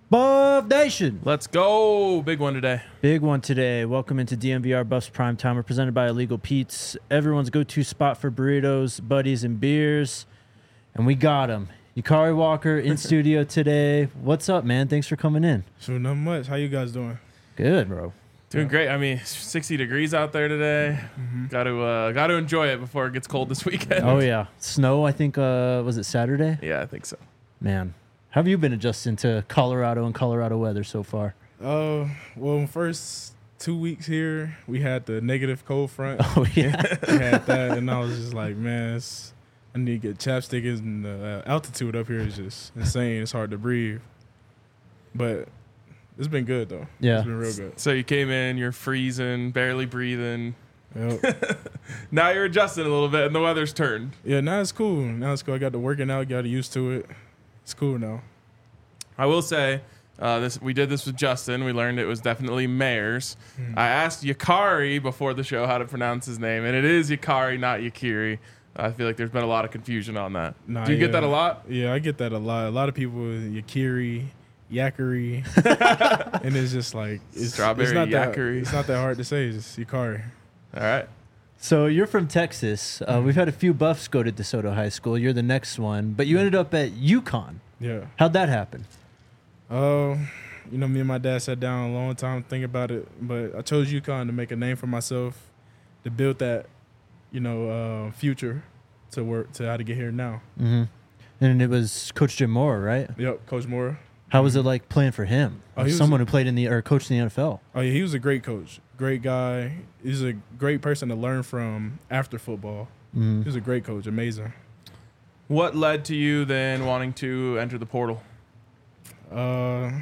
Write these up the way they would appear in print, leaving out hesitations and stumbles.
Buff Nation. Let's go. Big one today. Big one today. Welcome into DMVR Buffs Prime Time. We're presented by Illegal Pete's, everyone's go-to spot for burritos, buddies, and beers. And we got him. Yukari Walker in studio today. What's up, man? Thanks for coming in. So not much. How you guys doing? Good, bro. Doing great. I mean, 60 degrees out there today. Got to enjoy it before it gets cold this weekend. Oh, yeah. Snow, I think, was it Saturday? Yeah, I think so. Man, how have you been adjusting to Colorado and Colorado weather so far? Well, first 2 weeks here, we had the negative cold front. Oh, yeah. We had that, and I was just like, man, I need to get chapstick. And the altitude up here is just insane. It's hard to breathe. But it's been good, though. Yeah. It's been real good. So you came in, you're freezing, barely breathing. Yep. Now you're adjusting a little bit, and the weather's turned. Yeah, now it's cool. I got to working out, got used to it. It's cool now. I will say, we did this with Justin. We learned it was definitely Mayers. I asked Yukari before the show how to pronounce his name, and it is Yukari, not Yakiri. I feel like there's been a lot of confusion on that. Do you get that a lot? Yeah, I get that a lot. A lot of people, Yakiri, Yakari, and it's just like Strawberry it's not Yakari. It's not that hard to say. It's just Yukari. All right. So you're from Texas. We've had a few Buffs go to DeSoto High School. You're the next one, but you ended up at UConn. Yeah. How'd that happen? Me and my dad sat down a long time thinking about it, but I chose UConn to make a name for myself, to build that, future to how to get here now. Mm-hmm. And it was Coach Jim Moore, right? Yep, Coach Moore. How was it like playing for him? Oh, he was someone who played coached in the NFL. Oh yeah, he was a great coach, great guy. He's a great person to learn from after football. Mm-hmm. He was a great coach, amazing. What led to you then wanting to enter the portal? It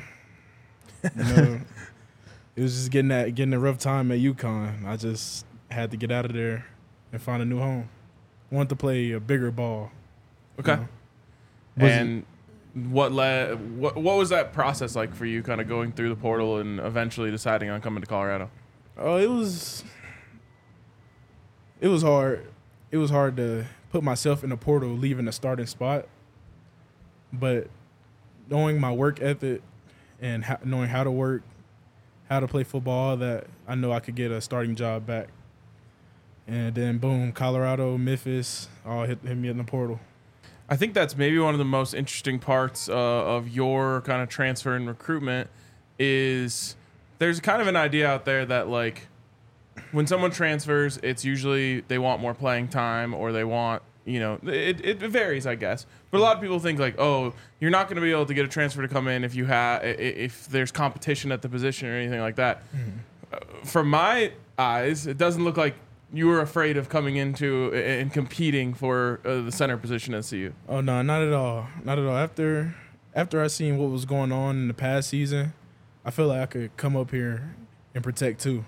was just getting a rough time at UConn. I just had to get out of there and find a new home. Wanted to play a bigger ball. Okay. You know? What was that process like for you, kind of going through the portal and eventually deciding on coming to Colorado? Oh, it was hard. It was hard to put myself in the portal, leaving the starting spot. But knowing my work ethic and knowing how to work, how to play football, that I know I could get a starting job back. And then boom, Colorado, Memphis, all hit me in the portal. I think that's maybe one of the most interesting parts of your kind of transfer and recruitment is there's kind of an idea out there that, like, when someone transfers, it's usually they want more playing time or they want, it varies, I guess. But a lot of people think, like, oh, you're not going to be able to get a transfer to come in if there's competition at the position or anything like that. Mm-hmm. From my eyes, it doesn't look like you were afraid of coming into and competing for the center position at CU. Oh no, not at all, not at all. After I seen what was going on in the past season, I feel like I could come up here and protect too.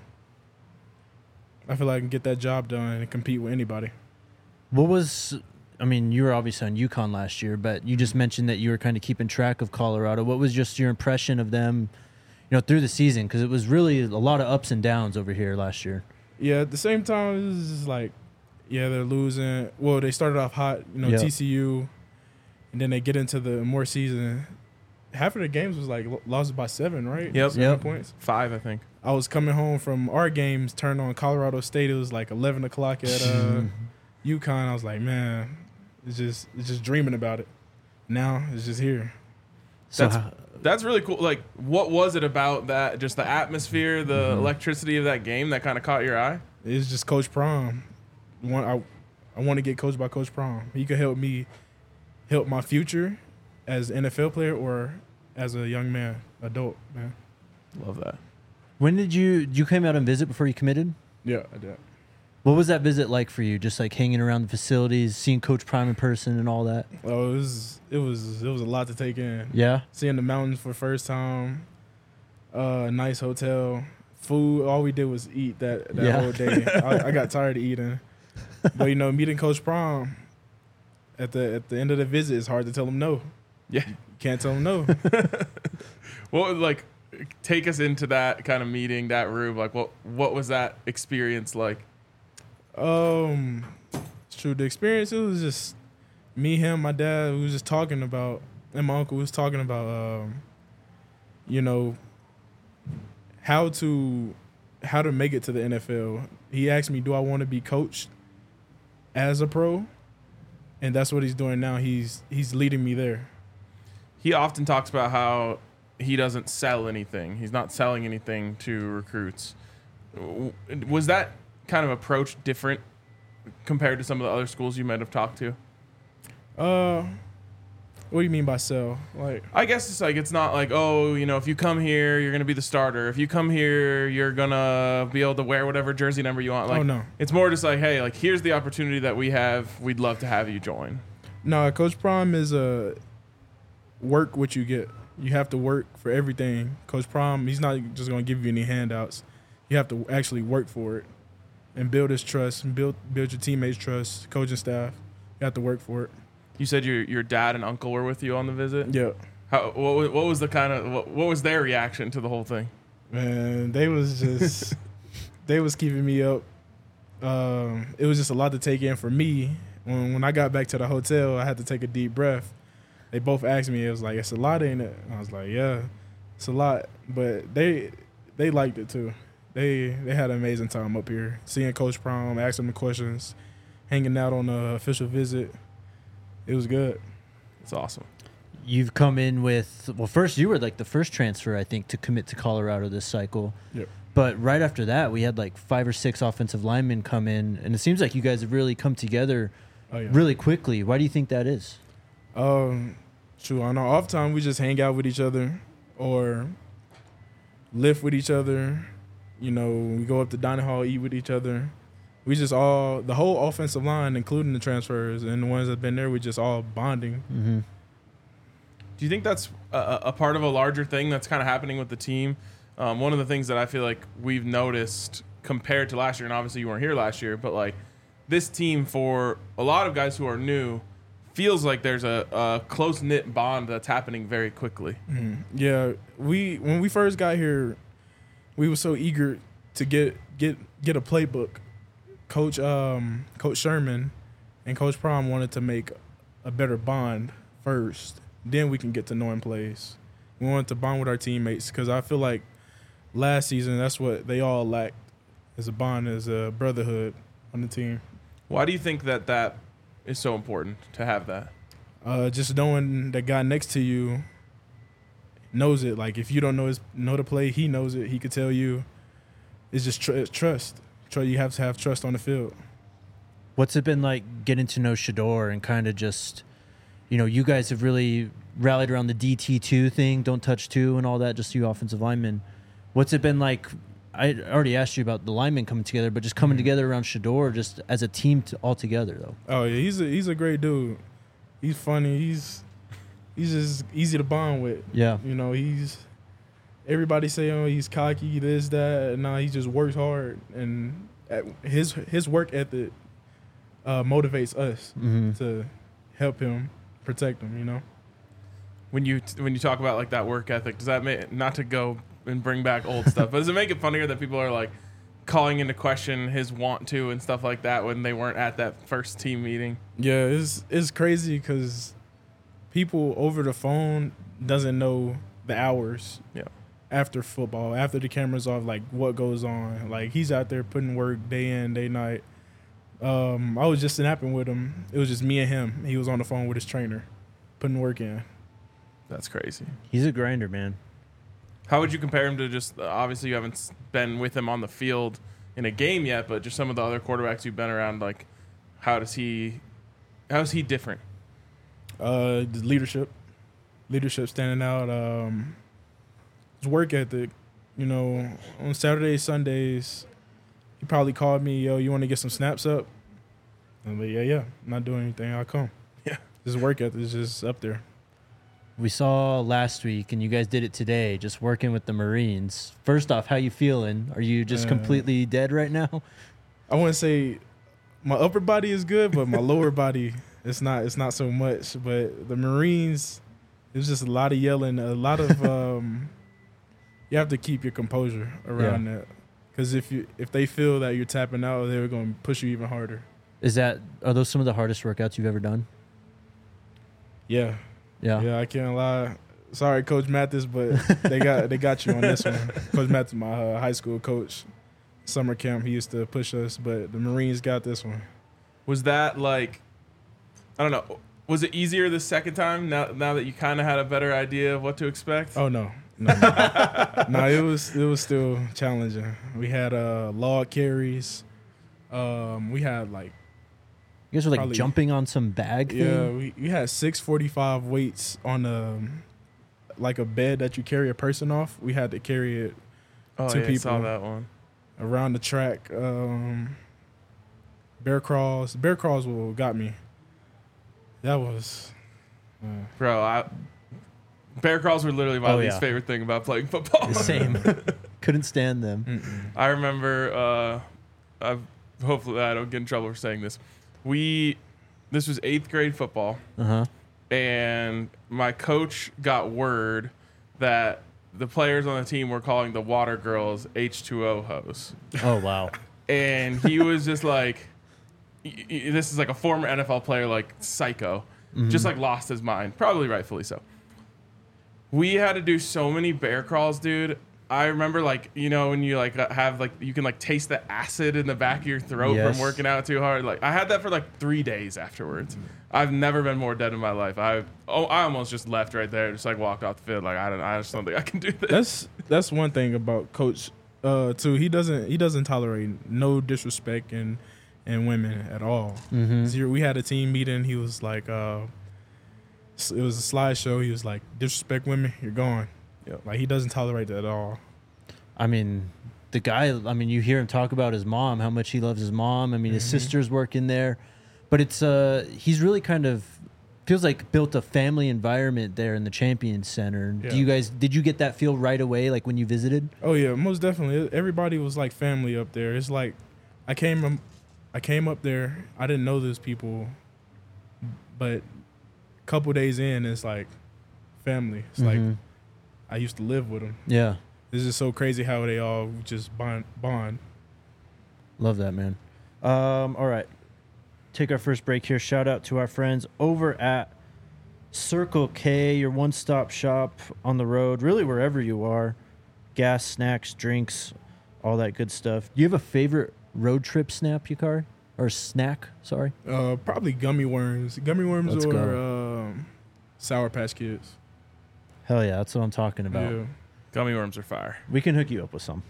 I feel like I can get that job done and compete with anybody. You were obviously on UConn last year, but you just mentioned that you were kind of keeping track of Colorado. What was just your impression of them, through the season? Because it was really a lot of ups and downs over here last year. Yeah, at the same time, it was just like, they're losing. Well, they started off hot, Yep. TCU, and then they get into the more season. Half of the games was like lost by 7, right? Yep. 7 points. 5, I think. I was coming home from our games, turned on Colorado State. It was like 11 o'clock at UConn. I was like, man, it's just dreaming about it. Now it's just here. That's really cool. Like, what was it about that? Just the atmosphere, the electricity of that game that kind of caught your eye? It's just Coach Prom. I want to get coached by Coach Prom. He could help my future as an NFL player or as a young man, adult man. Love that. When did you came out and visit before you committed? Yeah, I did. What was that visit like for you? Just like hanging around the facilities, seeing Coach Prime in person and all that? Oh, it was a lot to take in. Yeah. Seeing the mountains for the first time, nice hotel, food. All we did was eat that whole day. I got tired of eating. But meeting Coach Prom at the end of the visit, it's hard to tell him no. Yeah. You can't tell him no. Take us into that kind of meeting, that room. Like, what was that experience like? It's true. The experience, it was just me, him, my dad. We was just talking about, and my uncle was talking about you know, how to make it to the NFL. He asked me, do I want to be coached as a pro? And that's what he's doing now. He's leading me there. He often talks about how he doesn't sell anything. He's not selling anything to recruits. Was that kind of approach different compared to some of the other schools you might have talked to? What do you mean by sell? Like, I guess it's like, it's not like, oh, you know, if you come here, you're going to be the starter. If you come here, you're going to be able to wear whatever jersey number you want. Like, oh, no. It's more just like, hey, like, here's the opportunity that we have. We'd love to have you join. No, Coach Prime is work what you get. You have to work for everything. Coach Prime, he's not just going to give you any handouts. You have to actually work for it and build his trust and build your teammates' trust, coaching staff. You have to work for it. You said your dad and uncle were with you on the visit? Yeah. What was the kind of what was their reaction to the whole thing? Man, they was just they was keeping me up. It was just a lot to take in for me. When I got back to the hotel, I had to take a deep breath. They both asked me, it was like, it's a lot, ain't it? And I was like, yeah, it's a lot. But they liked it too. They had an amazing time up here. Seeing Coach Prime, asking him questions, hanging out on the official visit. It was good. It's awesome. You've come in with, well, first you were like the first transfer, I think, to commit to Colorado this cycle. Yep. But right after that, we had like 5 or 6 offensive linemen come in, and it seems like you guys have really come together really quickly. Why do you think that is? True. On our off time, we just hang out with each other or lift with each other. You know, we go up to dining hall, eat with each other. We just all, the whole offensive line, including the transfers and the ones that have been there, we just all bonding. Mm-hmm. Do you think that's a part of a larger thing that's kind of happening with the team? One of the things that I feel like we've noticed compared to last year, and obviously you weren't here last year, but like this team, for a lot of guys who are new, feels like there's a close-knit bond that's happening very quickly. Mm-hmm. Yeah, when we first got here, we were so eager to get a playbook. Coach Sherman and Coach Prime wanted to make a better bond first. Then we can get to knowing plays. We wanted to bond with our teammates because I feel like last season that's what they all lacked, is a bond, is a brotherhood on the team. Why do you think that is so important to have that? Just knowing the guy next to you knows it. Like if you don't know the play, he knows it. He could tell you. It's just trust. You have to have trust on the field. What's it been like getting to know Shedeur and kind of just, you know, you guys have really rallied around the DT2 thing, don't touch 2 and all that, just you offensive linemen. What's it been like? I already asked you about the linemen coming together, but just coming together around Shedeur just as a team all together, though. Oh, yeah, he's a great dude. He's funny. He's just easy to bond with. Yeah. You know, everybody say, oh, he's cocky, this, that. Nah, he just works hard. And his work ethic motivates us to help him, protect him, you know? When you talk about like that work ethic, does that make, not to go and bring back old stuff, but does it make it funnier that people are like calling into question his want to and stuff like that when they weren't at that first team meeting? Yeah, it's crazy because people over the phone doesn't know the hours. Yeah. After football, after the camera's off, like what goes on. Like he's out there putting work day in, day night. I was just snapping with him. It was just me and him. He was on the phone with his trainer, putting work in. That's crazy. He's a grinder, man. How would you compare him to just, obviously you haven't been with him on the field in a game yet, but just some of the other quarterbacks you've been around, like how is he different? The leadership standing out. His work ethic, you know, on Saturdays, Sundays, he probably called me, yo, you want to get some snaps up? I'm like, yeah, I'm not doing anything, I'll come. Yeah. His work ethic is just up there. We saw last week, and you guys did it today, just working with the Marines. First off, how you feeling? Are you just completely dead right now? I wouldn't say my upper body is good, but my lower body, it's not so much. But the Marines, it was just a lot of yelling, a lot of you have to keep your composure around that. Because if they feel that you're tapping out, they're going to push you even harder. Are those some of the hardest workouts you've ever done? Yeah. Yeah. Yeah, I can't lie. Sorry, Coach Mathis, but they got you on this one. Coach Mathis, my high school coach, summer camp, he used to push us, but the Marines got this one. Was that like, I don't know, was it easier the second time now that you kind of had a better idea of what to expect? Oh no, no, it was still challenging. We had log carries. We had like You guys were like probably- jumping on some bag yeah, thing? we had 645 weights on like a bed that you carry a person off. We had to carry it Oh, two yeah, I saw people. that one. around the track. Bear crawls what got me. That was Bro, bear crawls were literally my Oh, least yeah. favorite thing about playing football. Same. Couldn't stand them. I remember, hopefully I don't get in trouble for saying this. This was 8th grade football, Uh-huh. and my coach got word that the players on the team were calling the water girls H2O hose. Oh, wow. And he was just like, this is like a former NFL player, like psycho, just like lost his mind, probably rightfully so. We had to do so many bear crawls, dude. I remember, like, you know, when you like have like you can like taste the acid in the back of your throat Yes. from working out too hard. Like I had that for like 3 days afterwards. I've never been more dead in my life. I almost just left right there, just like walked off the field. Like I just don't think I can do this. that's one thing about Coach too. He doesn't tolerate no disrespect in women at all. Mm-hmm. So we had a team meeting. He was like, it was a slideshow. He was like, disrespect women, you're gone. Yep. Like he doesn't tolerate that at all. I mean, the guy, you hear him talk about his mom, how much he loves his mom. I mean, his sister's working there. But it's he's really kind of feels like built a family environment there in the Champions Center. Yeah. Did you get that feel right away, like when you visited? Oh yeah, most definitely. Everybody was like family up there. It's like I came up there. I didn't know those people, but a couple days in, it's like family. It's like Mhm. I used to live with them. Yeah. This is so crazy how they all just bond. Love that, man. All right. Take our first break here. Shout out to our friends over at Circle K, your one-stop shop on the road, really wherever you are. Gas, snacks, drinks, all that good stuff. Do you have a favorite road trip snap, Yukari? Or snack, sorry? Probably gummy worms. Gummy worms Let's or Sour Patch Kids. Hell yeah, that's what I'm talking about. Yeah. Gummy worms are fire. We can hook you up with some.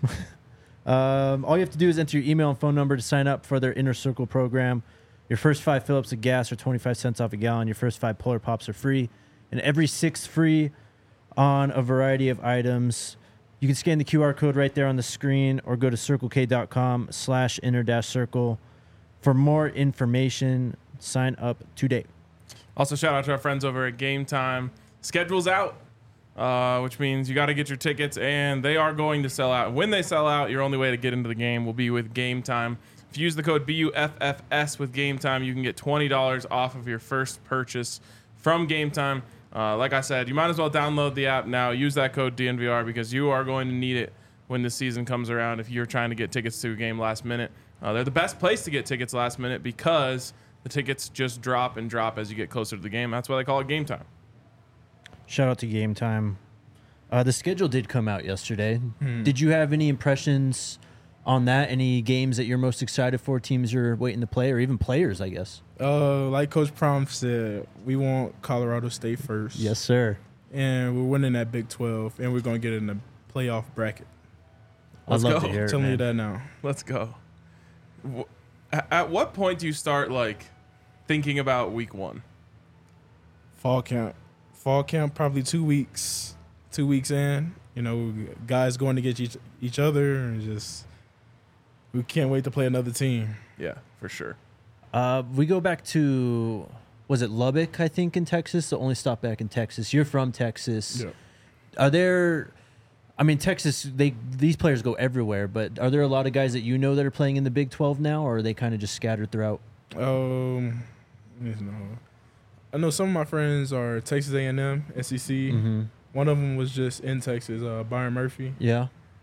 All you have to do is enter your email and phone number to sign up for their Inner Circle program. Your first 5 fill-ups of gas are 25 cents off a gallon. Your first 5 Polar Pops are free. And every 6 free on a variety of items. You can scan the QR code right there on the screen or go to circlek.com/inner-circle. For more information, sign up today. Also, shout out to our friends over at Game Time. Schedule's out, which means you got to get your tickets, and they are going to sell out. When they sell out, your only way to get into the game will be with Game Time. If you use the code BUFFS with Game Time, you can get $20 off of your first purchase from Game Time. Like I said, you might as well download the app now. Use that code DNVR because you are going to need it when the season comes around if you're trying to get tickets to a game last minute. They're the best place to get tickets last minute because the tickets just drop and drop as you get closer to the game. That's why they call it Game Time. Shout out to Game Time. The schedule did come out yesterday. Hmm. Did you have any impressions on that? Any games that you're most excited for, teams you're waiting to play, or even players, I guess? Like Coach Prom said, we want Colorado State first. Yes, sir. And we're winning that Big 12, and we're going to get in the playoff bracket. Let's I'd love go. to hear it, Telling you man. that now. Let's go. At what point do you start like thinking about week one? Fall camp. Fall camp, probably 2 weeks. 2 weeks in. You know, guys going to get each other, and just we can't wait to play another team. Yeah, for sure. We go back to, was it Lubbock, I think, in Texas? The only stop back in Texas. You're from Texas. Yeah. Are there, Texas, these players go everywhere, but are there a lot of guys that you know that are playing in the Big 12 now, or are they kind of just scattered throughout? I know some of my friends are Texas A&M, SEC. Mm-hmm. One of them was just in Texas, Byron Murphy. Yeah.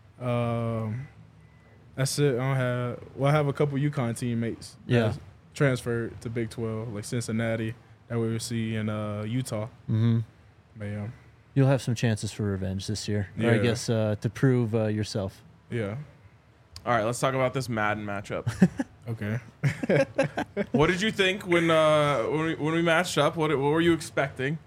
That's it. I have a couple UConn teammates. Yeah. That transferred to Big 12, like Cincinnati, that we will see in Utah. Mm-hmm. But yeah. You'll have some chances for revenge this year. Or I Yeah. guess to prove yourself. Yeah. All right, let's talk about this Madden matchup. Okay. What did you think when we matched up? What were you expecting?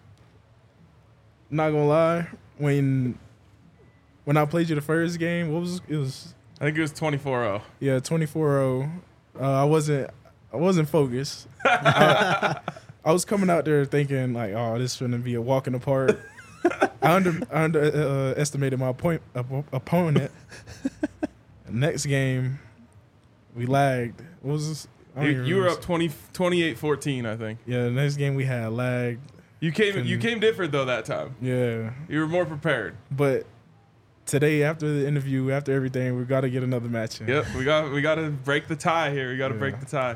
Not gonna lie, when I played you the first game, it was I think it was 24-0. yeah 24-0. I wasn't focused. I was coming out there thinking like, oh, this is gonna be a walk in the park. I underestimated my opponent. Next game, we lagged. What was this? I don't even You were remember. up 28-14, I think. Yeah, the next game we had lagged. You came different though that time. Yeah, You were more prepared. but today after the interview, after everything, we got to get another match in. Yep, we got to break the tie here. We got to Yeah. break the tie.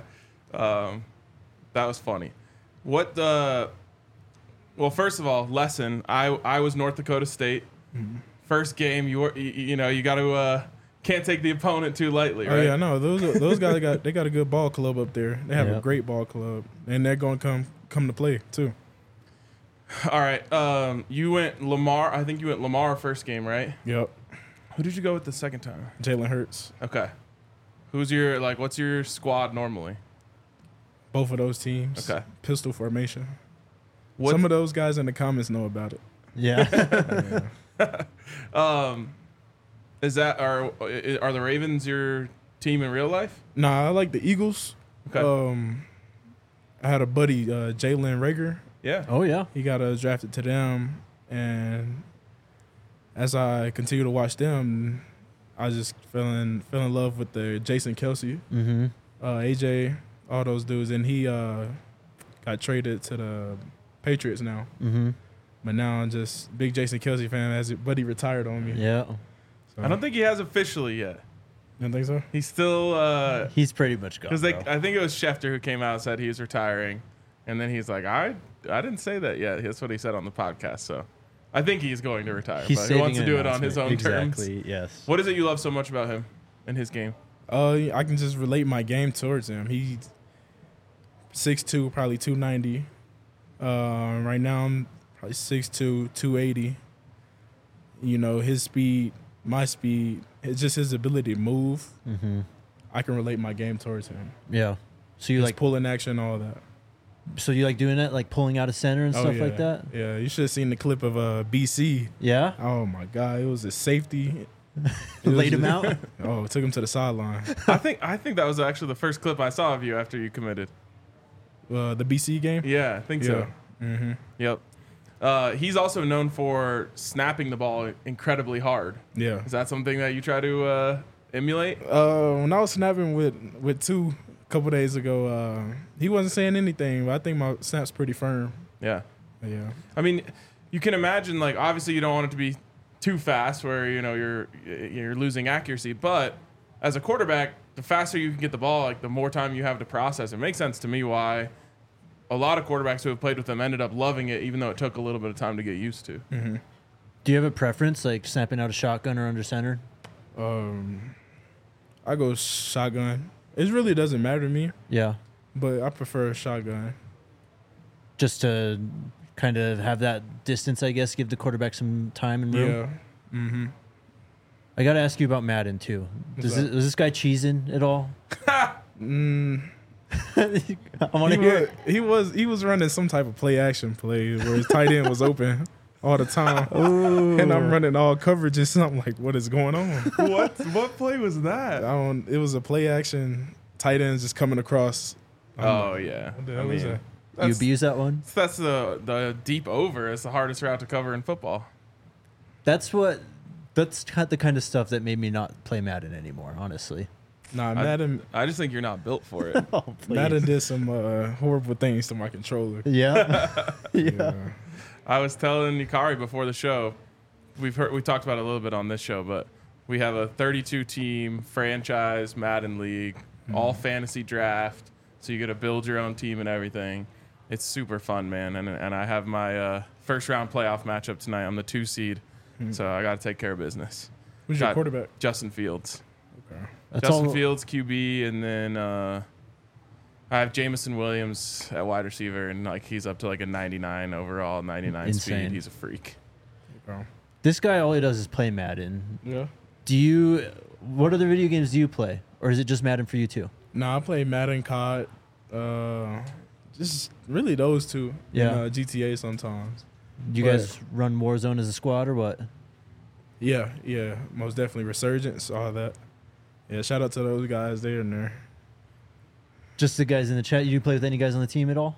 That was funny. Well, first of all, lesson. I was North Dakota State. Mm-hmm. First game, you got to can't take the opponent too lightly, right? Oh yeah, no, those guys got a good ball club up there. They have a Yep. great ball club, and they're going to come to play too. All right. You went Lamar. I think you went Lamar first game, right? Yep, Who did you go with the second time? Jalen Hurts. Okay. What's your squad normally? Both of those teams. Okay. Pistol formation. What Some of those guys in the comments know about it. Yeah. Yeah. is that are the Ravens your team in real life? Nah, I like the Eagles. Okay. I had a buddy, Jalen Rager. Yeah. Oh yeah. He got drafted to them, and as I continue to watch them, I just fell in love with the Jason Kelsey, Mm-hmm. AJ, all those dudes, and he got traded to the Patriots now. Mm-hmm. But now I'm just big Jason Kelsey fan. As buddy retired on me. Yeah. So, I don't think he has officially yet. You don't think so? He's still He's pretty much gone. because bro. I think it was Schefter who came out and said he was retiring, and then he's like, I didn't say that yet. That's what he said on the podcast. So I think he's going to retire, He's but he saving wants to an do it on his own announcement. terms. Exactly. Yes. What is it you love so much about him and his game? I can just relate my game towards him. He's 6'2", probably 290. Right now I'm probably 6'2", 280. You know, his speed, my speed, it's just his ability to move. Mm-hmm. I can relate my game towards him. Yeah. So you His like pulling action, all that. doing that, like pulling out of center and stuff yeah. like that? Yeah, you should have seen the clip of BC. Yeah. Oh my God, it was a safety. It was Laid him just- out. Oh, it took him to the sideline. I think that was actually the first clip I saw of you after you committed. The BC game. Yeah, I think so. Mm-hmm. Yep. He's also known for snapping the ball incredibly hard. Yeah. Is that something that you try to emulate? When I was snapping with two a couple days ago, he wasn't saying anything, but I think my snap's pretty firm. Yeah. Yeah. I mean, you can imagine, like, obviously you don't want it to be too fast where, you're losing accuracy, but as a quarterback, the faster you can get the ball, like the more time you have to process. It makes sense to me why a lot of quarterbacks who have played with them ended up loving it, even though it took a little bit of time to get used to. Mm-hmm. Do you have a preference, like snapping out a shotgun or under center? I go shotgun. It really doesn't matter to me, Yeah. but I prefer a shotgun. Just to kind of have that distance, I guess, give the quarterback some time and room. Yeah. Mm-hmm. I got to ask you about Madden too. What's Was this guy cheesing at all? I want to hear. He was running some type of play action play where his tight end was open all the time, and I'm running all coverages. And I'm like, what is going on? What play was that? It was a play action tight ends just coming across. Oh, yeah. What the hell is that? You abuse that one? That's the deep over. It's the hardest route to cover in football. That's the kind of stuff that made me not play Madden anymore, honestly. Nah, Madden I just think you're not built for it. Oh, please. Madden did some horrible things to my controller. Yeah. yeah. I was telling Nikari before the show, we talked about it a little bit on this show, but we have a 32-team franchise Madden league, all fantasy draft, so you get to build your own team and everything. It's super fun, man, and I have my first round playoff matchup tonight. I'm the 2 seed, so I got to take care of business. Who's your Got quarterback? Justin Fields. Okay. That's Justin all. Fields, QB, and then I have Jamison Williams at wide receiver, and like he's up to like a 99 overall, 99 Insane. speed. He's a freak. Oh. This guy, all he does is play Madden. Yeah. What other video games do you play? Or is it just Madden for you too? No, I play Madden, COD, just really those two. Yeah. And, GTA sometimes. Do you guys run Warzone as a squad or what? Yeah, most definitely. Resurgence, all that. Yeah, shout out to those guys. They're in there. Just the guys in the chat. You play with any guys on the team at all?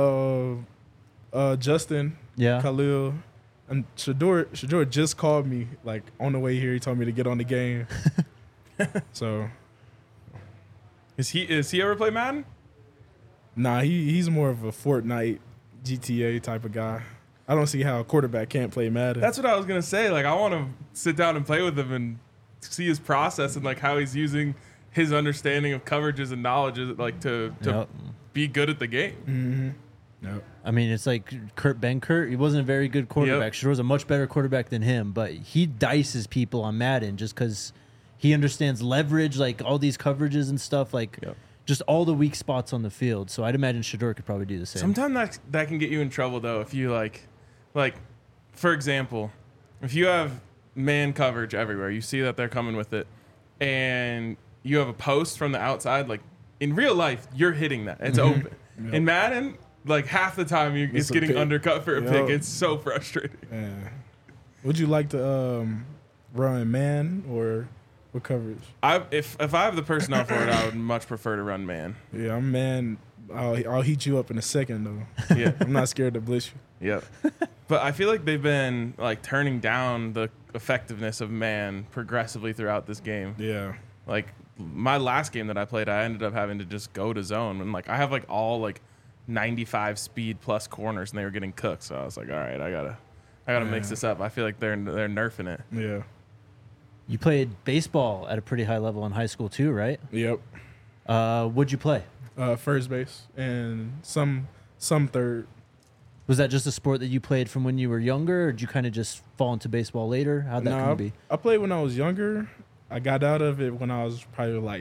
Justin, Yeah. Khalil, and Shador just called me like on the way here. He told me to get on the game. So, Is he ever play Madden? nah, he's more of a Fortnite, GTA type of guy. I don't see how a quarterback can't play Madden. That's what I was gonna say. Like, I want to sit down and play with him and see his process and like how he's using his understanding of coverages and knowledge, like to Yep. be good at the game. Mm-hmm. Yep. I mean, it's like Kurt Benkert. He wasn't a very good quarterback. Yep. Shador's a much better quarterback than him, but he dices people on Madden just because he understands leverage, like all these coverages and stuff, like Yep. just all the weak spots on the field. So I'd imagine Shador could probably do the same. Sometimes that can get you in trouble though if you like for example, if you have man coverage everywhere, you see that they're coming with it, and you have a post from the outside. Like in real life, you're hitting that. It's open. Yep. In Madden, like half the time it's It's a getting pick. undercut for a Yep. pick. It's so frustrating. Yeah. Would you like to run man or what coverage? If I have the personnel for it, I would much prefer to run man. Yeah, I'm man. I'll heat you up in a second though. Yeah. I'm not scared to blitz you. Yep. But I feel like they've been like turning down the effectiveness of man progressively throughout this game. Yeah. Like my last game that I played, I ended up having to just go to zone, and like I have like all like 95 speed plus corners, and they were getting cooked. So I was like, all right, I gotta mix this up. I feel like they're nerfing it. Yeah. You played baseball at a pretty high level in high school too, right? Yep. What'd you play? First base and some third. Was that just a sport that you played from when you were younger, or did you kind of just fall into baseball later? How'd that come to be? I played when I was younger. I got out of it when I was probably like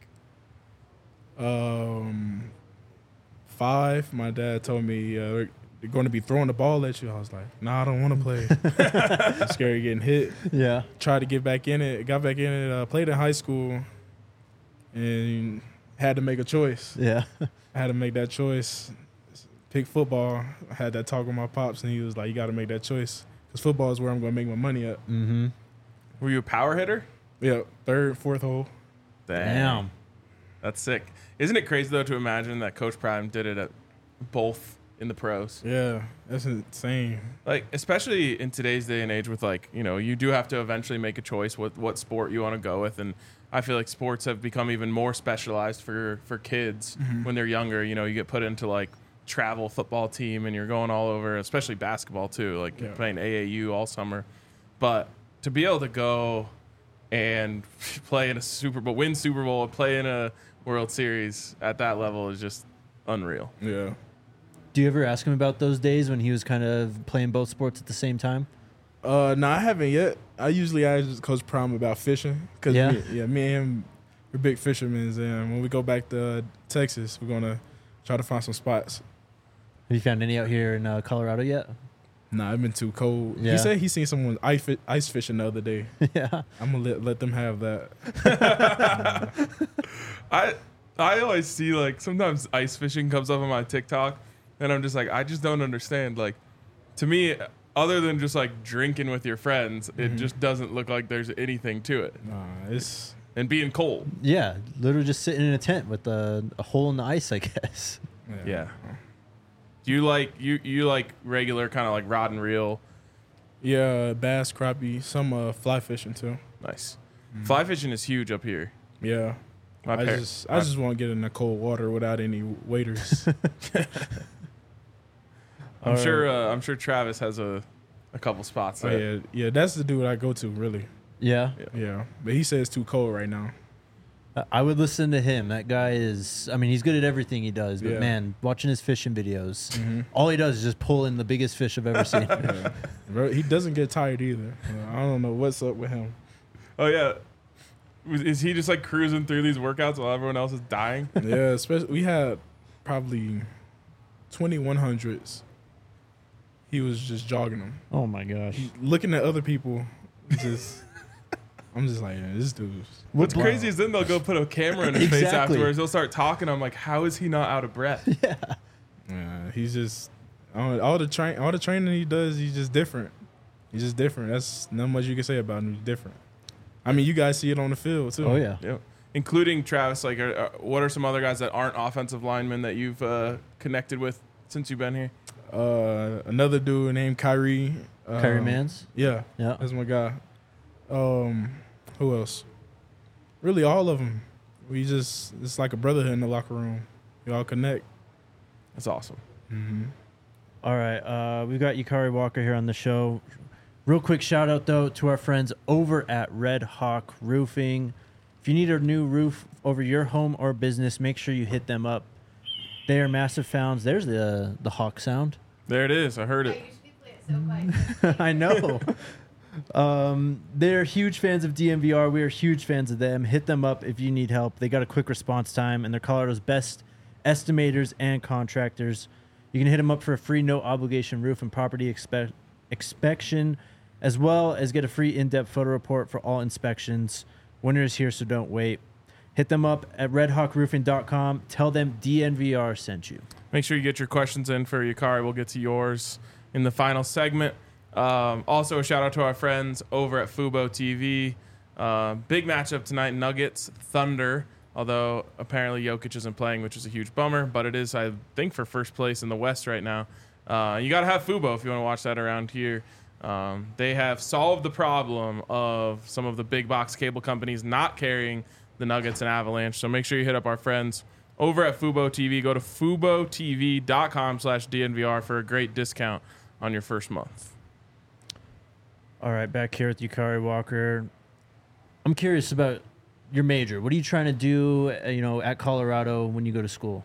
5. My dad told me they're going to be throwing the ball at you. I was like, nah, I don't want to play. I'm scared of getting hit. Yeah. Tried to get back in it. Got back in it. Played in high school and had to make a choice. Yeah. I had to make that choice. Pick football. I had that talk with my pops, and he was like, you got to make that choice because football is where I'm going to make my money at. Mm-hmm. Were you a power hitter? Yeah, third, fourth hole. Damn. That's sick. Isn't it crazy though to imagine that Coach Prime did it at both in the pros? Yeah, that's insane. Like, especially in today's day and age with like, you know, you do have to eventually make a choice with what sport you want to go with. And I feel like sports have become even more specialized for kids when they're younger. You know, you get put into like travel football team and you're going all over, especially basketball too, like Yeah. playing AAU all summer. But to be able to go and play in a Super Bowl, win Super Bowl, and play in a World Series at that level is just unreal. Yeah. Do you ever ask him about those days when he was kind of playing both sports at the same time? No, I haven't yet. I usually ask Coach Prime about fishing because Yeah? me and him, we're big fishermen. And when we go back to Texas, we're gonna try to find some spots. Have you found any out here in Colorado yet? Nah, it's been too cold. Yeah. He said he seen someone ice fishing the other day. Yeah. I'm gonna let them have that. I always see like sometimes ice fishing comes up on my TikTok, and I'm just like, I just don't understand. Like, to me, other than just like drinking with your friends, it just doesn't look like there's anything to it. Nah, it's And being cold. Yeah. Literally just sitting in a tent with a hole in the ice, I guess. Yeah. Do you like you like regular kind of like rod and reel? Yeah, bass, crappie, some fly fishing too. Nice. Fly fishing is huge up here. Yeah. I just want to get in the cold water without any waiters. I'm sure Travis has a couple spots Oh, there. yeah, that's the dude I go to really. Yeah. Yeah, but he says it's too cold right now. I would listen to him. That guy is, I mean, he's good at everything he does, but Yeah. man, watching his fishing videos, all he does is just pull in the biggest fish I've ever seen. Yeah. Bro, he doesn't get tired either. I don't know what's up with him. Oh yeah. Is he just like cruising through these workouts while everyone else is dying? Yeah, especially we had probably 2100s. he was just jogging them. Oh my gosh. Looking at other people, just I'm just like, yeah, this dude's. What's crazy is then they'll go put a camera in his face Exactly. afterwards. They'll start talking. I'm like, how is he not out of breath? Yeah, he's just all the training he does. He's just different. He's just different. That's not much you can say about him. He's different. I mean, you guys see it on the field too. Oh yeah. Yep. Including Travis. Like, what are some other guys that aren't offensive linemen that you've connected with since you've been here? Another dude named Kyrie. Kyrie Mans. Yeah, Yeah. that's my guy. Who else? Really, all of them. It's like a brotherhood in the locker room. We all connect. That's awesome. Mm-hmm. All right. We've got Yukari Walker here on the show. Real quick shout out though to our friends over at Red Hawk Roofing. If you need a new roof over your home or business, make sure you hit them up. They are massive fans. There's the hawk sound. There it is. I heard it. I know. They're huge fans of DMVR. We are huge fans of them. Hit them up if you need help. They got a quick response time, and they're Colorado's best estimators and contractors. You can hit them up for a free no-obligation roof and property inspection, as well as get a free in-depth photo report for all inspections. Winter is here, so don't wait. Hit them up at redhawkroofing.com. Tell them DNVR sent you. Make sure you get your questions in for Yukari. We'll get to yours in the final segment. Also, a shout out to our friends over at Fubo TV. Big matchup tonight, Nuggets, Thunder. Although apparently Jokic isn't playing, which is a huge bummer. But it is, I think, for first place in the West right now. You got to have Fubo if you want to watch that around here. They have solved the problem of some of the big box cable companies not carrying the Nuggets and Avalanche. So make sure you hit up our friends over at Fubo TV. Go to FuboTV.com/DNVR for a great discount on your first month. All right, back here with Yukari Walker. I'm curious about your major. What are you trying to do, at Colorado when you go to school?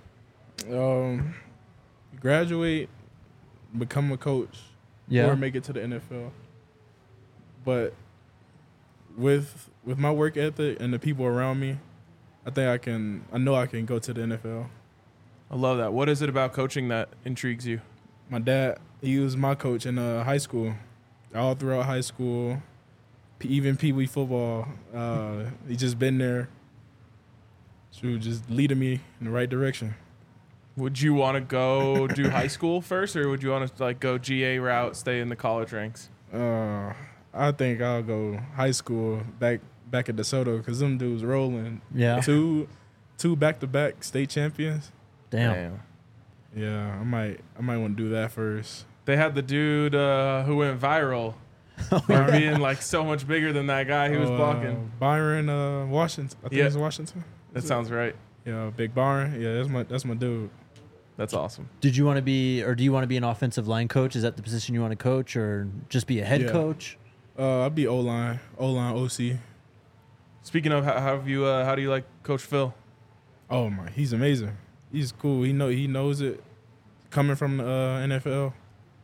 Graduate, become a coach, or make it to the NFL. But with my work ethic and the people around me, I know I can go to the NFL. I love that. What is it about coaching that intrigues you? My dad, he was my coach in high school. All throughout high school, even Pee Wee football, he just been there, so just leading me in the right direction. Would you want to go do high school first, or would you want to go GA route, stay in the college ranks? I think I'll go high school back at DeSoto because them dudes rolling. Yeah. Two back-to-back state champions. Damn. Yeah, I might want to do that first. They had the dude who went viral for being so much bigger than that guy who was blocking. Byron Washington. I think it's Washington. That sounds right. Yeah, Big Byron. Yeah, that's my dude. That's awesome. Did you want to be, or do you want to be an offensive line coach? Is that the position you want to coach, or just be a head coach? I'd be O-line, OC. Speaking of, how do you like Coach Phil? Oh my, he's amazing. He's cool. He knows it. Coming from the NFL,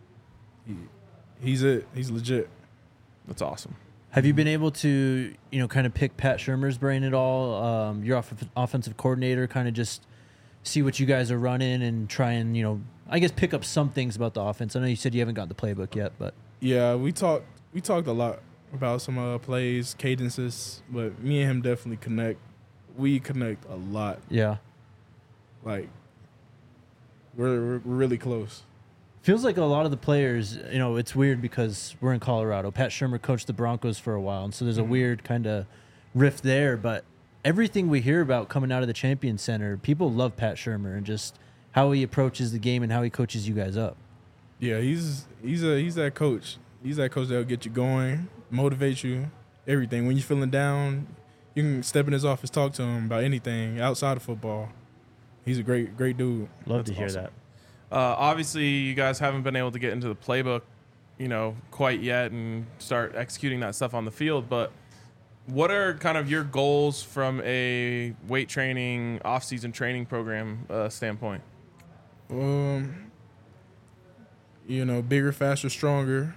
he's legit. That's awesome. Have you been able to, kind of pick Pat Shurmur's brain at all? Your offensive coordinator, kind of just see what you guys are running and try and, I guess pick up some things about the offense. I know you said you haven't got the playbook yet, but yeah, we talked a lot about some plays, cadences, but me and him definitely connect. We connect a lot. Yeah, we're really close. feels like a lot of the players, it's weird because we're in Colorado. Pat Shurmur coached the Broncos for a while, and so there's a weird kind of rift there. But everything we hear about coming out of the Champion Center, people love Pat Shurmur and just how he approaches the game and how he coaches you guys up. Yeah, he's that coach. He's that coach that'll get you going, motivate you, everything. When you're feeling down, you can step in his office, talk to him about anything outside of football. He's a great dude. Love to hear that. Obviously, you guys haven't been able to get into the playbook, quite yet and start executing that stuff on the field. But what are kind of your goals from a weight training, off-season training program standpoint? Bigger, faster, stronger.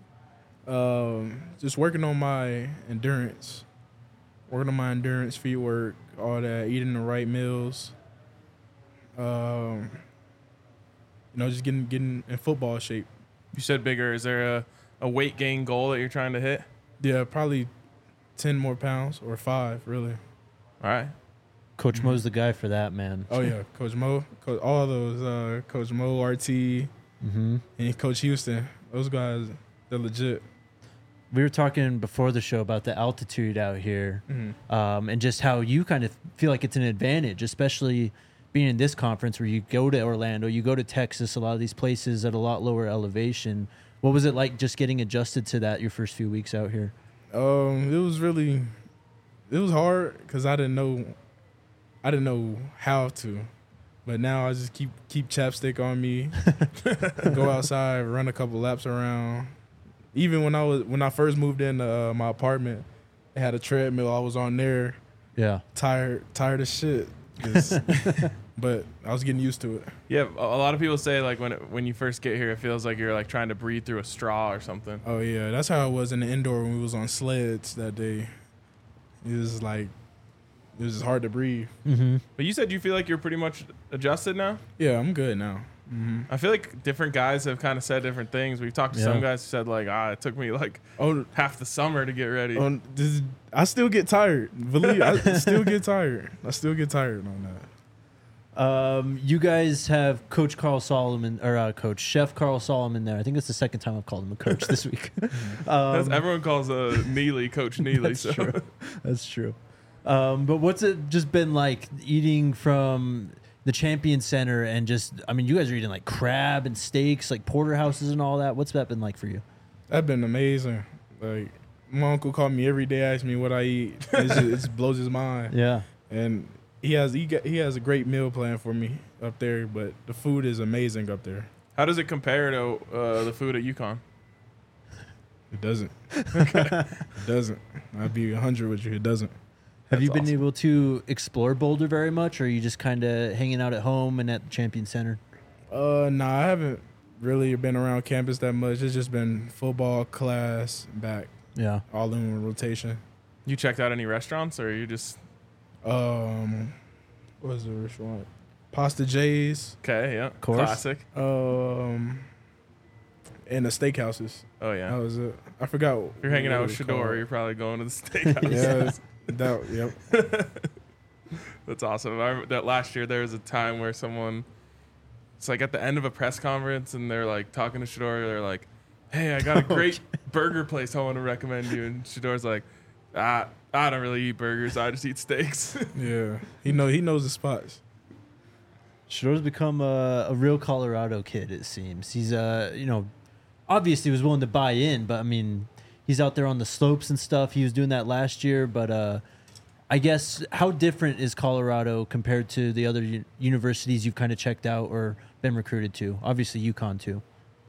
Just working on my endurance, feet work, all that, eating the right meals. Just getting in football shape. You said bigger. Is there a weight gain goal that you're trying to hit? Yeah, probably 10 more pounds or 5, really. All right. Coach Mo's the guy for that, man. Oh, yeah. Coach Mo. All those. Coach Mo, RT, Mm-hmm. and Coach Houston. Those guys, they're legit. We were talking before the show about the altitude out here, and just how you kind of feel like it's an advantage, especially being in this conference where you go to Orlando, you go to Texas, a lot of these places at a lot lower elevation. What was it like just getting adjusted to that your first few weeks out here? It was hard because I didn't know how to, but now I just keep chapstick on me, go outside, run a couple laps around. Even when I first moved into my apartment, I had a treadmill. I was on there, Yeah. tired as shit. But I was getting used to it. Yeah, a lot of people say like when you first get here, it feels like you're like trying to breathe through a straw or something. Oh yeah, that's how it was in the indoor when we was on sleds that day. It was just hard to breathe. Mm-hmm. But you said you feel like you're pretty much adjusted now. Yeah, I'm good now. I feel like different guys have kind of said different things. We've talked to some guys who said like, it took me like half the summer to get ready. I still get tired. Believe I still get tired. I still get tired on that. You guys have Coach Carl Solomon, or Coach Chef Carl Solomon there. I think it's the second time I've called him a coach this week. Everyone calls Neely Coach Neely. That's so. true. That's true. But what's it just been like eating from the Champion Center and just, I mean, you guys are eating like crab and steaks, like porterhouses and all that. What's that been like for you? That's been amazing. Like my uncle called me every day, asked me what I eat. It just blows his mind. Yeah. And he has a great meal plan for me up there, but the food is amazing up there. How does it compare to the food at UConn? It doesn't. It doesn't. I'd be 100 with you. It doesn't. Have you been awesome. able to explore Boulder very much, or are you just kind of hanging out at home and at the Champion Center? Nah, I haven't really been around campus that much. It's just been football, class, back, Yeah. all in rotation. You checked out any restaurants, or you just What was the restaurant? Pasta J's. okay? Yeah, course. classic. And the steakhouses. Oh yeah. That was it. I forgot. If you're hanging out with what it was Shador, called. you're probably going to the steakhouse. Yeah. Yep. That's awesome. I remember that last year there was a time where someone, it's like at the end of a press conference, and they're like talking to Shador. They're like, "Hey, I got a great burger place I want to recommend you." And Shador's like, I don't really eat burgers. I just eat steaks." Yeah. He knows the spots. Shador's become a real Colorado kid, it seems. He's, obviously was willing to buy in, but I mean, he's out there on the slopes and stuff. He was doing that last year, but I guess how different is Colorado compared to the other universities you've kind of checked out or been recruited to? Obviously, UConn too.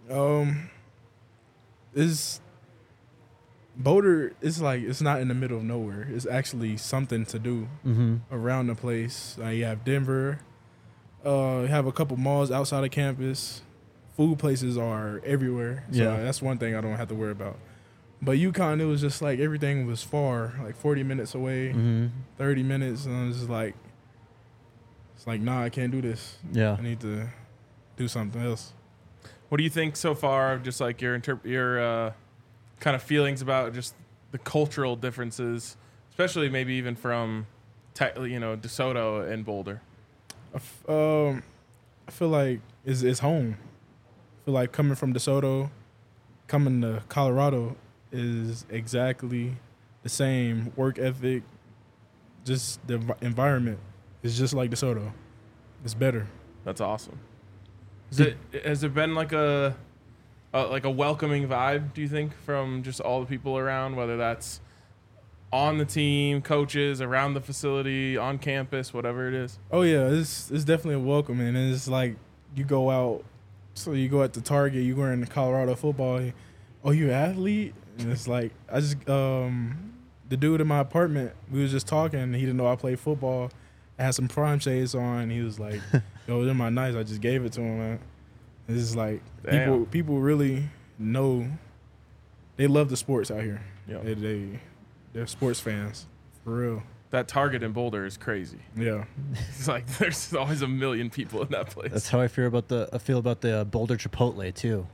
Boulder is like, it's not in the middle of nowhere. It's actually something to do around the place. You have Denver. You have a couple malls outside of campus. Food places are everywhere. So Yeah. that's one thing I don't have to worry about. But UConn, it was just like everything was far, like 40 minutes away, 30 minutes. And I was just like, it's like, nah, I can't do this. Yeah. I need to do something else. What do you think so far of just like your kind of feelings about just the cultural differences, especially maybe even from DeSoto and Boulder? I feel like it's home. I feel like coming from DeSoto, coming to Colorado is exactly the same work ethic. Just the environment is just like DeSoto. It's better. That's awesome. Has it been like a welcoming vibe, do you think, from just all the people around, whether that's on the team, coaches, around the facility, on campus, whatever it is? Oh yeah, it's definitely a welcome, and it's like you go out. So you go at the Target, you wearing the Colorado football. Oh, you an athlete? And it's like I just the dude in my apartment, we was just talking. And he didn't know I played football. I had some prime shades on. He was like, "Yo, they're my nice." I just gave it to him, man. It's just like people really know. They love the sports out here. Yep. They're sports fans for real. That Target in Boulder is crazy. Yeah. It's like there's always a million people in that place. That's how I feel about the Boulder Chipotle too.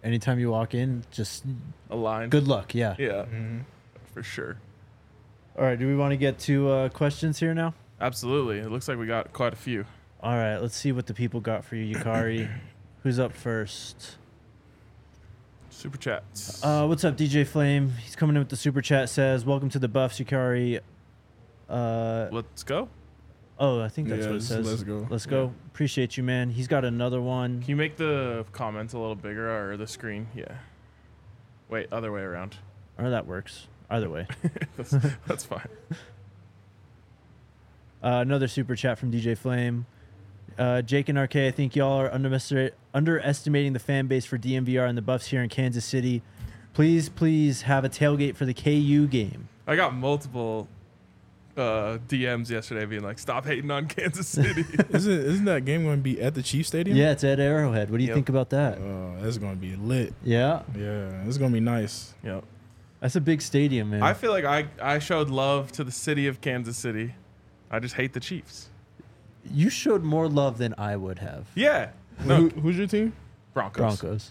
anytime you walk in, just A line. good luck. Yeah. Yeah, for sure. All right. Do we want to get to questions here now? Absolutely. It looks like we got quite a few. All right. Let's see what the people got for you, Yukari. Who's up first? Super chats. What's up, DJ Flame? He's coming in with the super chat. Says, "Welcome to the Buffs, Yukari." Let's go. Oh, I think that's Yeah, what it just says. let's go. Let's go. Appreciate you, man. He's got another one. Can you make the comments a little bigger or the screen? Yeah. Wait, other way around. Or that works. Either way. That's fine. Another super chat from DJ Flame. Jake and RK, I think y'all are underestimating the fan base for DMVR and the Buffs here in Kansas City. Please have a tailgate for the KU game. I got multiple DMs yesterday being like, stop hating on Kansas City. Isn't that game going to be at the Chiefs Stadium? Yeah, it's at Arrowhead. What do you Yep. think about that? That's going to be lit. Yeah, Yeah, it's going to be nice. Yep. that's a big stadium, man. I feel like I showed love to the city of Kansas City. I just hate the Chiefs. You showed more love than I would have. Yeah. No, Who's your team? Broncos.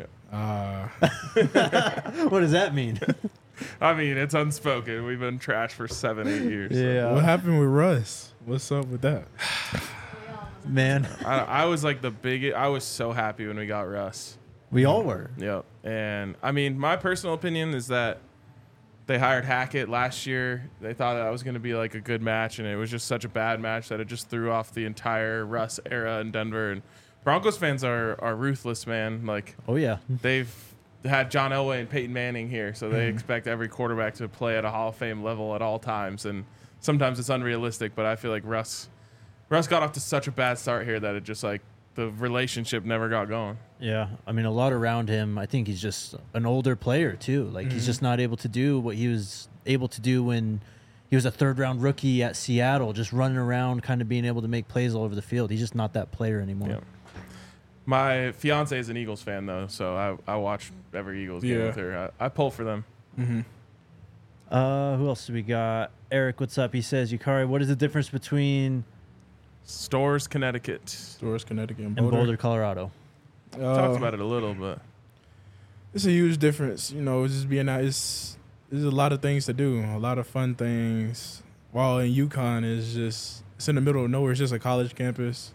What does that mean? I mean, it's unspoken. We've been trash for 7-8 years. so. yeah, What happened with Russ? What's up with that? man. I was like the biggest. I was so happy when we got Russ. We all were. Yep. And I mean, my personal opinion is that they hired Hackett last year. They thought that was going to be like a good match, and it was just such a bad match that it just threw off the entire Russ era in Denver. And Broncos fans are ruthless, man. Like, Oh yeah. they've had John Elway and Peyton Manning here, so they expect every quarterback to play at a Hall of Fame level at all times. And sometimes it's unrealistic, but I feel like Russ got off to such a bad start here that it just like the relationship never got going. Yeah, I mean, a lot around him. I think he's just an older player too. Like he's just not able to do what he was able to do when he was a third-round rookie at Seattle, just running around, kind of being able to make plays all over the field. He's just not that player anymore. Yeah. My fiance is an Eagles fan though, so I watch every Eagles game Yeah. with her. I pull for them. Who else do we got? Eric, what's up? He says, Yukari, what is the difference between Stores, Connecticut. Stores, Connecticut, and and Boulder. Boulder, Colorado? Talked about it a little, but It's a huge difference. You know, just being out. There's a lot of things to do, a lot of fun things. While in UConn it's in the middle of nowhere. It's just a college campus.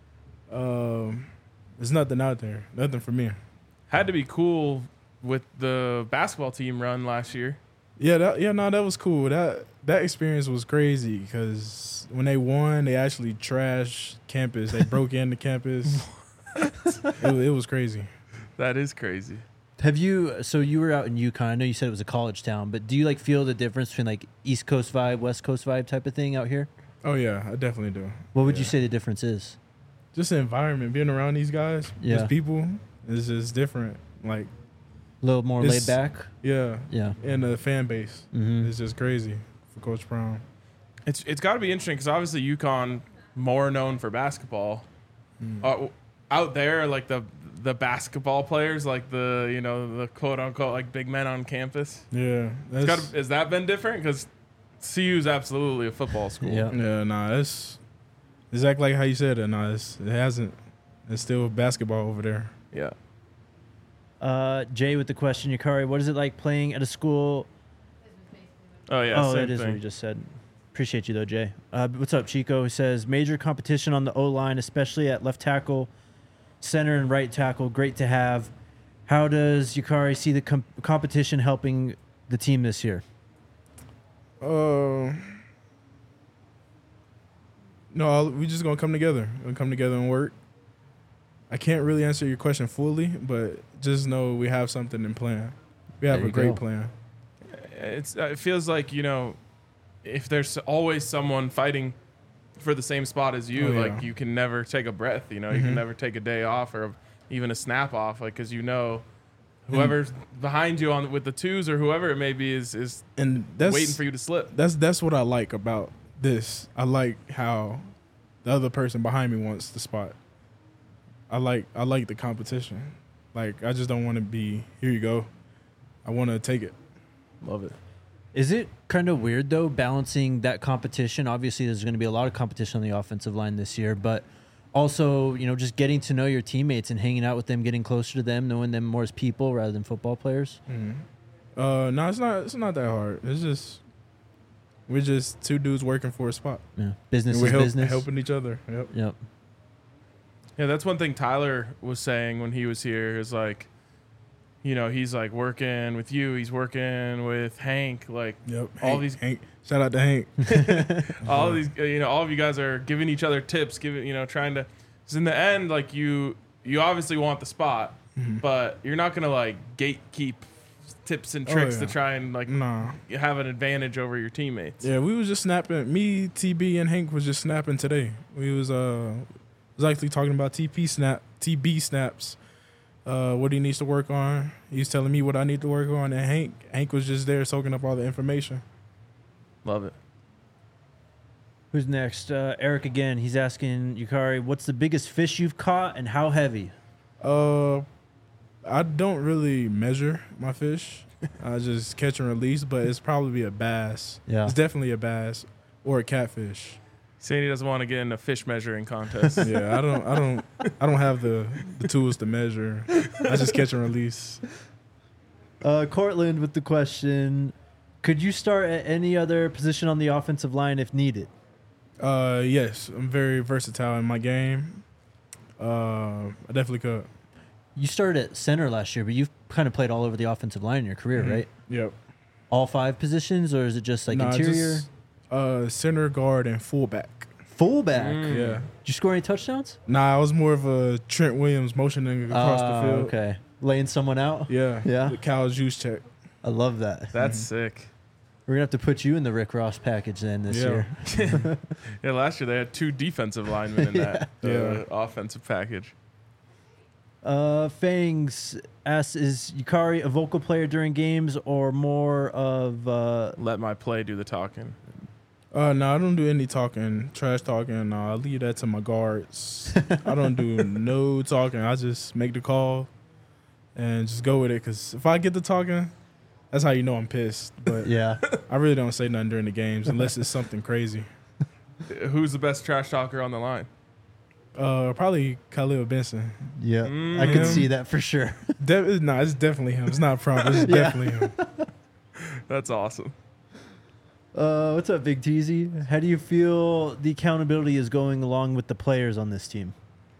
There's nothing out there. Nothing for me. had to be cool with the basketball team run last year. That was cool. That experience was crazy because when they won, they actually trashed campus. They broke into campus. It was crazy. That is crazy. So you were out in UConn. I know you said it was a college town, but do you like feel the difference between like East Coast vibe, West Coast vibe type of thing out here? Oh yeah, I definitely do. What would you Yeah. say the difference is? Just the environment, being around these guys, Yeah. these people, is just different. Like A little more It's- laid back? yeah, Yeah. and the fan base Mm-hmm. is just crazy for Coach Brown. It's got to be interesting because obviously UConn more known for basketball. Out there, like the basketball players, like the quote unquote like big men on campus. Yeah, Has that been different? Because CU is absolutely a football school. Yeah. yeah. Nah, that's exactly like how you said it. Nah, it hasn't. It's still basketball over there. Yeah. Jay with the question, Yukari, what is it like playing at a school? Oh yeah. Oh, same that is what thing. you just said. Appreciate you though, Jay. What's up, Chico? He says major competition on the O line, especially at left tackle, center, and right tackle. Great to have. How does Yukari see the competition helping the team this year? No, we just gonna come together. We'll come together and work. I can't really answer your question fully, but just know we have something in plan. We have There a you great go. plan. It feels like if there's always someone fighting for the same spot as you, Oh, yeah. like you can never take a breath. You can never take a day off or even a snap off, like because whoever's behind you with the twos or whoever it may be is And that's waiting for you to slip. That's what I like about this. I like how the other person behind me wants the spot. I like the competition. Like I just don't want to be here you go. I want to take it. Love it. Is it kind of weird though balancing that competition? Obviously, there's going to be a lot of competition on the offensive line this year, but also, just getting to know your teammates and hanging out with them, getting closer to them, knowing them more as people rather than football players? No, it's not. It's not that hard. It's just we're just two dudes working for a spot. Yeah, business And is we're business. helping each other. Yep. Yep. Yeah, that's one thing Tyler was saying when he was here is like, he's like working with you, he's working with Hank, like Yep. all these Hank. Shout out to Hank. all these all of you guys are giving each other tips, trying to, because in the end, like you obviously want the spot, but you're not gonna like gatekeep tips and tricks to try and like Nah. have an advantage over your teammates. Yeah, we was just snapping. Me, TB, and Hank was just snapping today. We was actually talking about TB snaps. What he needs to work on. He's telling me what I need to work on, and Hank was just there soaking up all the information. Love it. Who's next? Eric again. He's asking Yukari, what's the biggest fish you've caught and how heavy? I don't really measure my fish. I just catch and release, but it's probably a bass. Yeah. It's definitely a bass or a catfish. Saying he doesn't want to get in a fish measuring contest. Yeah, I don't have the tools to measure. I just catch and release. Cortland with the question, could you start at any other position on the offensive line if needed? Yes, I'm very versatile in my game. I definitely could. You started at center last year, but you've kind of played all over the offensive line in your career, right? Yep. All 5 positions, or is it just like Nah, interior? just, center, guard, and fullback. Fullback. Yeah. Did you score any touchdowns? Nah, I was more of a Trent Williams motioning across the field. Okay. Laying someone out? Yeah. Yeah. The Cal's juice check. I love that. That's sick. We're going to have to put you in the Rick Ross package then this Yeah. year. Yeah, last year they had 2 defensive linemen in that Yeah. offensive package. Fangs asks, is Yukari a vocal player during games or more of... Let my play do the talking. No, I don't do any talking, trash talking. I leave that to my guards. I don't do no talking. I just make the call and just go with it. Because if I get to talking, that's how you know I'm pissed. But yeah. I really don't say nothing during the games unless it's something crazy. Who's the best trash talker on the line? Probably Khalil Benson. Yeah. I could Him. see that for sure. No, it's definitely him. It's not a problem. It's Yeah. definitely him. That's awesome. What's up, Big Teasy? How do you feel the accountability is going along with the players on this team?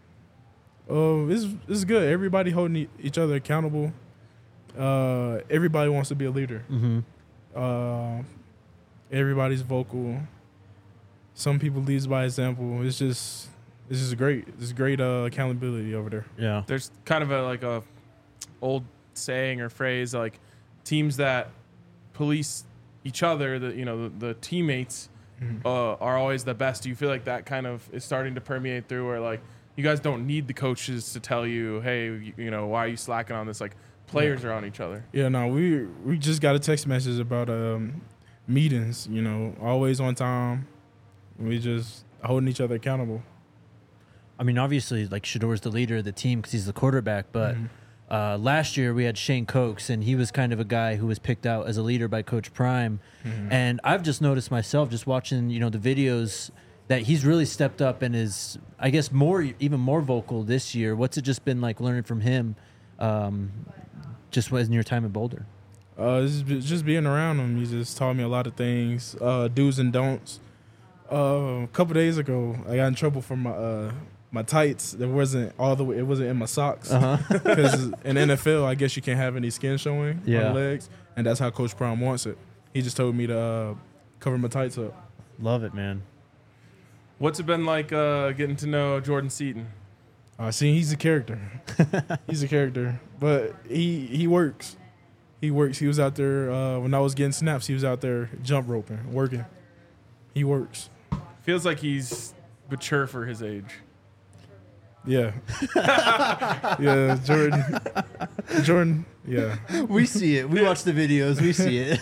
It's good. Everybody holding each other accountable. Everybody wants to be a leader. Mm-hmm. Everybody's vocal. Some people lead by example. It's just great. It's great accountability over there. Yeah. There's kind of a old saying or phrase like teams that police each other, the teammates are always the best. Do you feel like that kind of is starting to permeate through where like you guys don't need the coaches to tell you, hey, why are you slacking on this? Like players are on each other. Yeah, no, we just got a text message about meetings. Always on time. We just holding each other accountable. I mean, obviously, like Shador's the leader of the team because he's the quarterback. But last year we had Shane Cokes, and he was kind of a guy who was picked out as a leader by Coach Prime. And I've just noticed myself, just watching the videos, that he's really stepped up and is, I guess, even more vocal this year. What's it just been like learning from him, just in your time in Boulder? Just being around him, he just taught me a lot of things, do's and don'ts. A couple days ago, I got in trouble for my tights. It wasn't in my socks. Because in NFL, I guess you can't have any skin showing on the legs, and that's how Coach Prime wants it. He just told me to cover my tights up. Love it, man. What's it been like getting to know Jordan Seaton? See, he's a character. He's a character, but he works. He works. He was out there when I was getting snaps. He was out there jump roping, working. He works. Feels like he's mature for his age. Yeah. Yeah, Jordan, yeah. We see it. We watch the videos. We see it.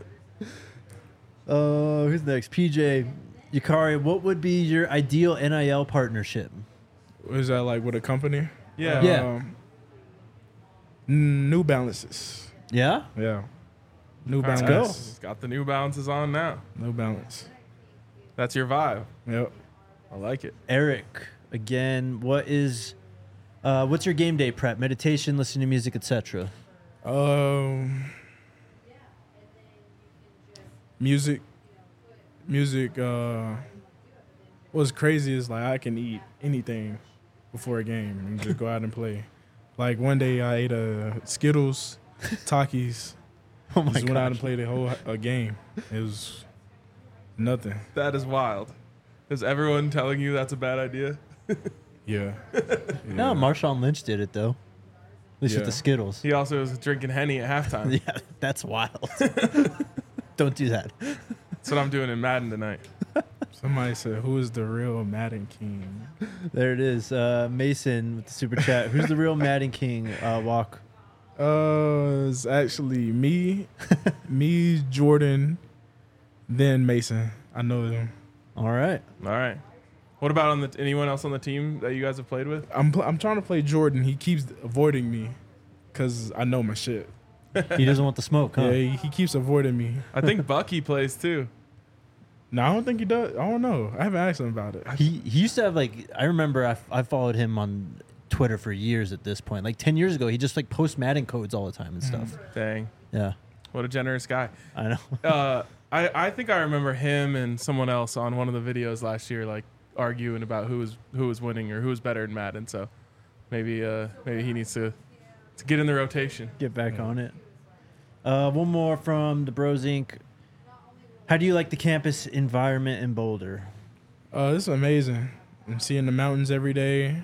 Who's next? PJ, Yukari, what would be your ideal NIL partnership? Was that like with a company? Yeah. Yeah. New Balances. Yeah? Yeah. New Let's Balance. go. Got the New Balances on now. New Balance. That's your vibe. Yep. I like it. Eric, again. What's your game day prep? Meditation, listening to music, etc. Music. What's crazy is like I can eat anything before a game and just go out and play. Like one day I ate Skittles, Takis. Oh my Just went out and god! played a whole game. It was nothing. That is wild. Is everyone telling you that's a bad idea? Yeah. No, Marshawn Lynch did it though. At least with Yeah. the Skittles. He also was drinking Henny at halftime. Yeah, that's wild. Don't do that. That's what I'm doing in Madden tonight. Somebody said, "Who is the real Madden King?" There it is. Mason with the super chat. Who's the real Madden King? Walk. It's actually me, Jordan, then Mason. I know them. All right. All right. What about anyone else on the team that you guys have played with? I'm trying to play Jordan. He keeps avoiding me because I know my shit. He doesn't want the smoke, huh? Yeah, he keeps avoiding me. I think Bucky plays too. No, I don't think he does. I don't know. I haven't asked him about it. He used to have like, I remember I followed him on Twitter for years at this point. Like 10 years ago, he just like posts Madden codes all the time and stuff. Dang. Yeah, What a generous guy. I know. I think I remember him and someone else on one of the videos last year, like arguing about who was winning or who was better in Madden. So maybe he needs to get in the rotation. Get back on it. One more from the Bros Inc. How do you like the campus environment in Boulder? This is amazing. I'm seeing the mountains every day.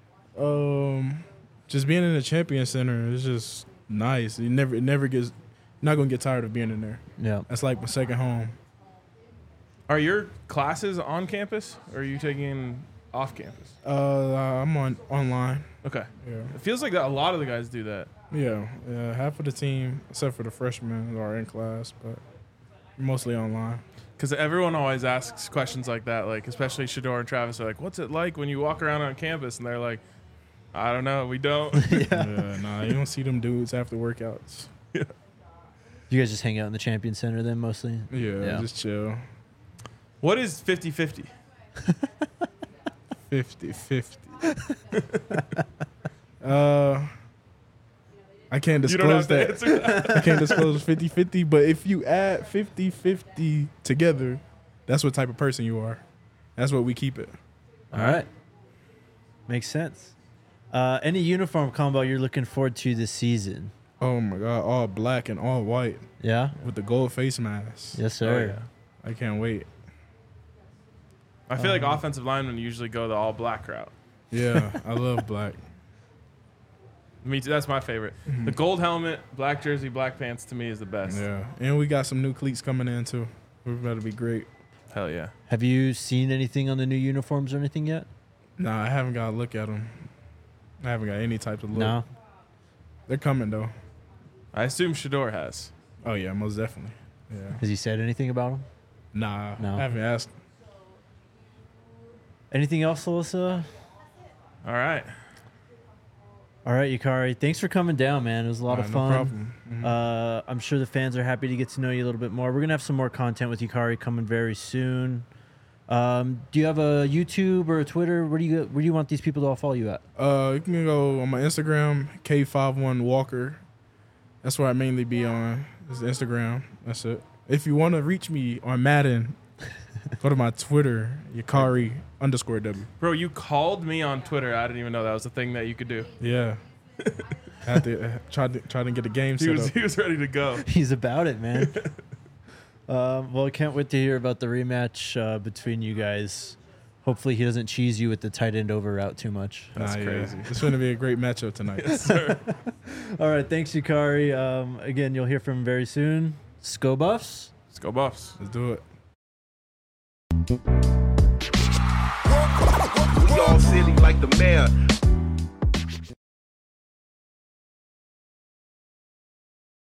Just being in the Champion Center is just nice. It never gets. Not gonna get tired of being in there. Yeah. That's like my second home. Are your classes on campus or are you taking off campus? I'm online. Okay. Yeah. It feels like that a lot of the guys do that. Yeah. Half of the team, except for the freshmen, are in class, but mostly online. Because everyone always asks questions like that, like especially Shador and Travis are like, "What's it like when you walk around on campus?" And they're like, "I don't know, we don't." Nah, you don't see them dudes after workouts. You guys just hang out in the Champion Center then mostly? Yeah, just chill. What is 50-50? 50-50. I can't You don't disclose have to that. answer that. I can't disclose 50-50, but if you add 50-50 together, that's what type of person you are. That's what we keep it. All right. Makes sense. Any uniform combo you're looking forward to this season? Oh my God, all black and all white Yeah? with the gold face mask. Yes, sir. Oh, I can't wait. I feel like offensive linemen usually go the all black route. Yeah, I love black. Me too. That's my favorite. The gold helmet, black jersey, black pants to me is the best. Yeah, and we got some new cleats coming in too. We're about to be great. Hell yeah. Have you seen anything on the new uniforms or anything yet? Nah, I haven't got to look at them. I haven't got any type of look. No? They're coming though. I assume Shador has. Oh yeah, most definitely. Yeah. Has he said anything about them? Nah, No. I haven't asked. Anything else, Alyssa? All right. All right, Yukari. Thanks for coming down, man. It was a lot of No fun. problem. Mhm. I'm sure the fans are happy to get to know you a little bit more. We're going to have some more content with Yukari coming very soon. Do you have a YouTube or a Twitter? Where do you want these people to all follow you at? You can go on my Instagram, K51Walker. That's where I mainly be on. Is Instagram. That's it. If you want to reach me on Madden, go to my Twitter, Yukari_W. Bro, you called me on Twitter. I didn't even know that was a thing that you could do. Yeah. Had to try to get the game set up. He was ready to go. He's about it, man. Well, I can't wait to hear about the rematch between you guys. Hopefully he doesn't cheese you with the tight end over route too much. That's crazy. It's going to be a great matchup tonight. Yes, sir. All right, thanks, Yukari. Again, you'll hear from him very soon. Sko Buffs. Let's go Buffs. Let's do it. We all silly like the mayor.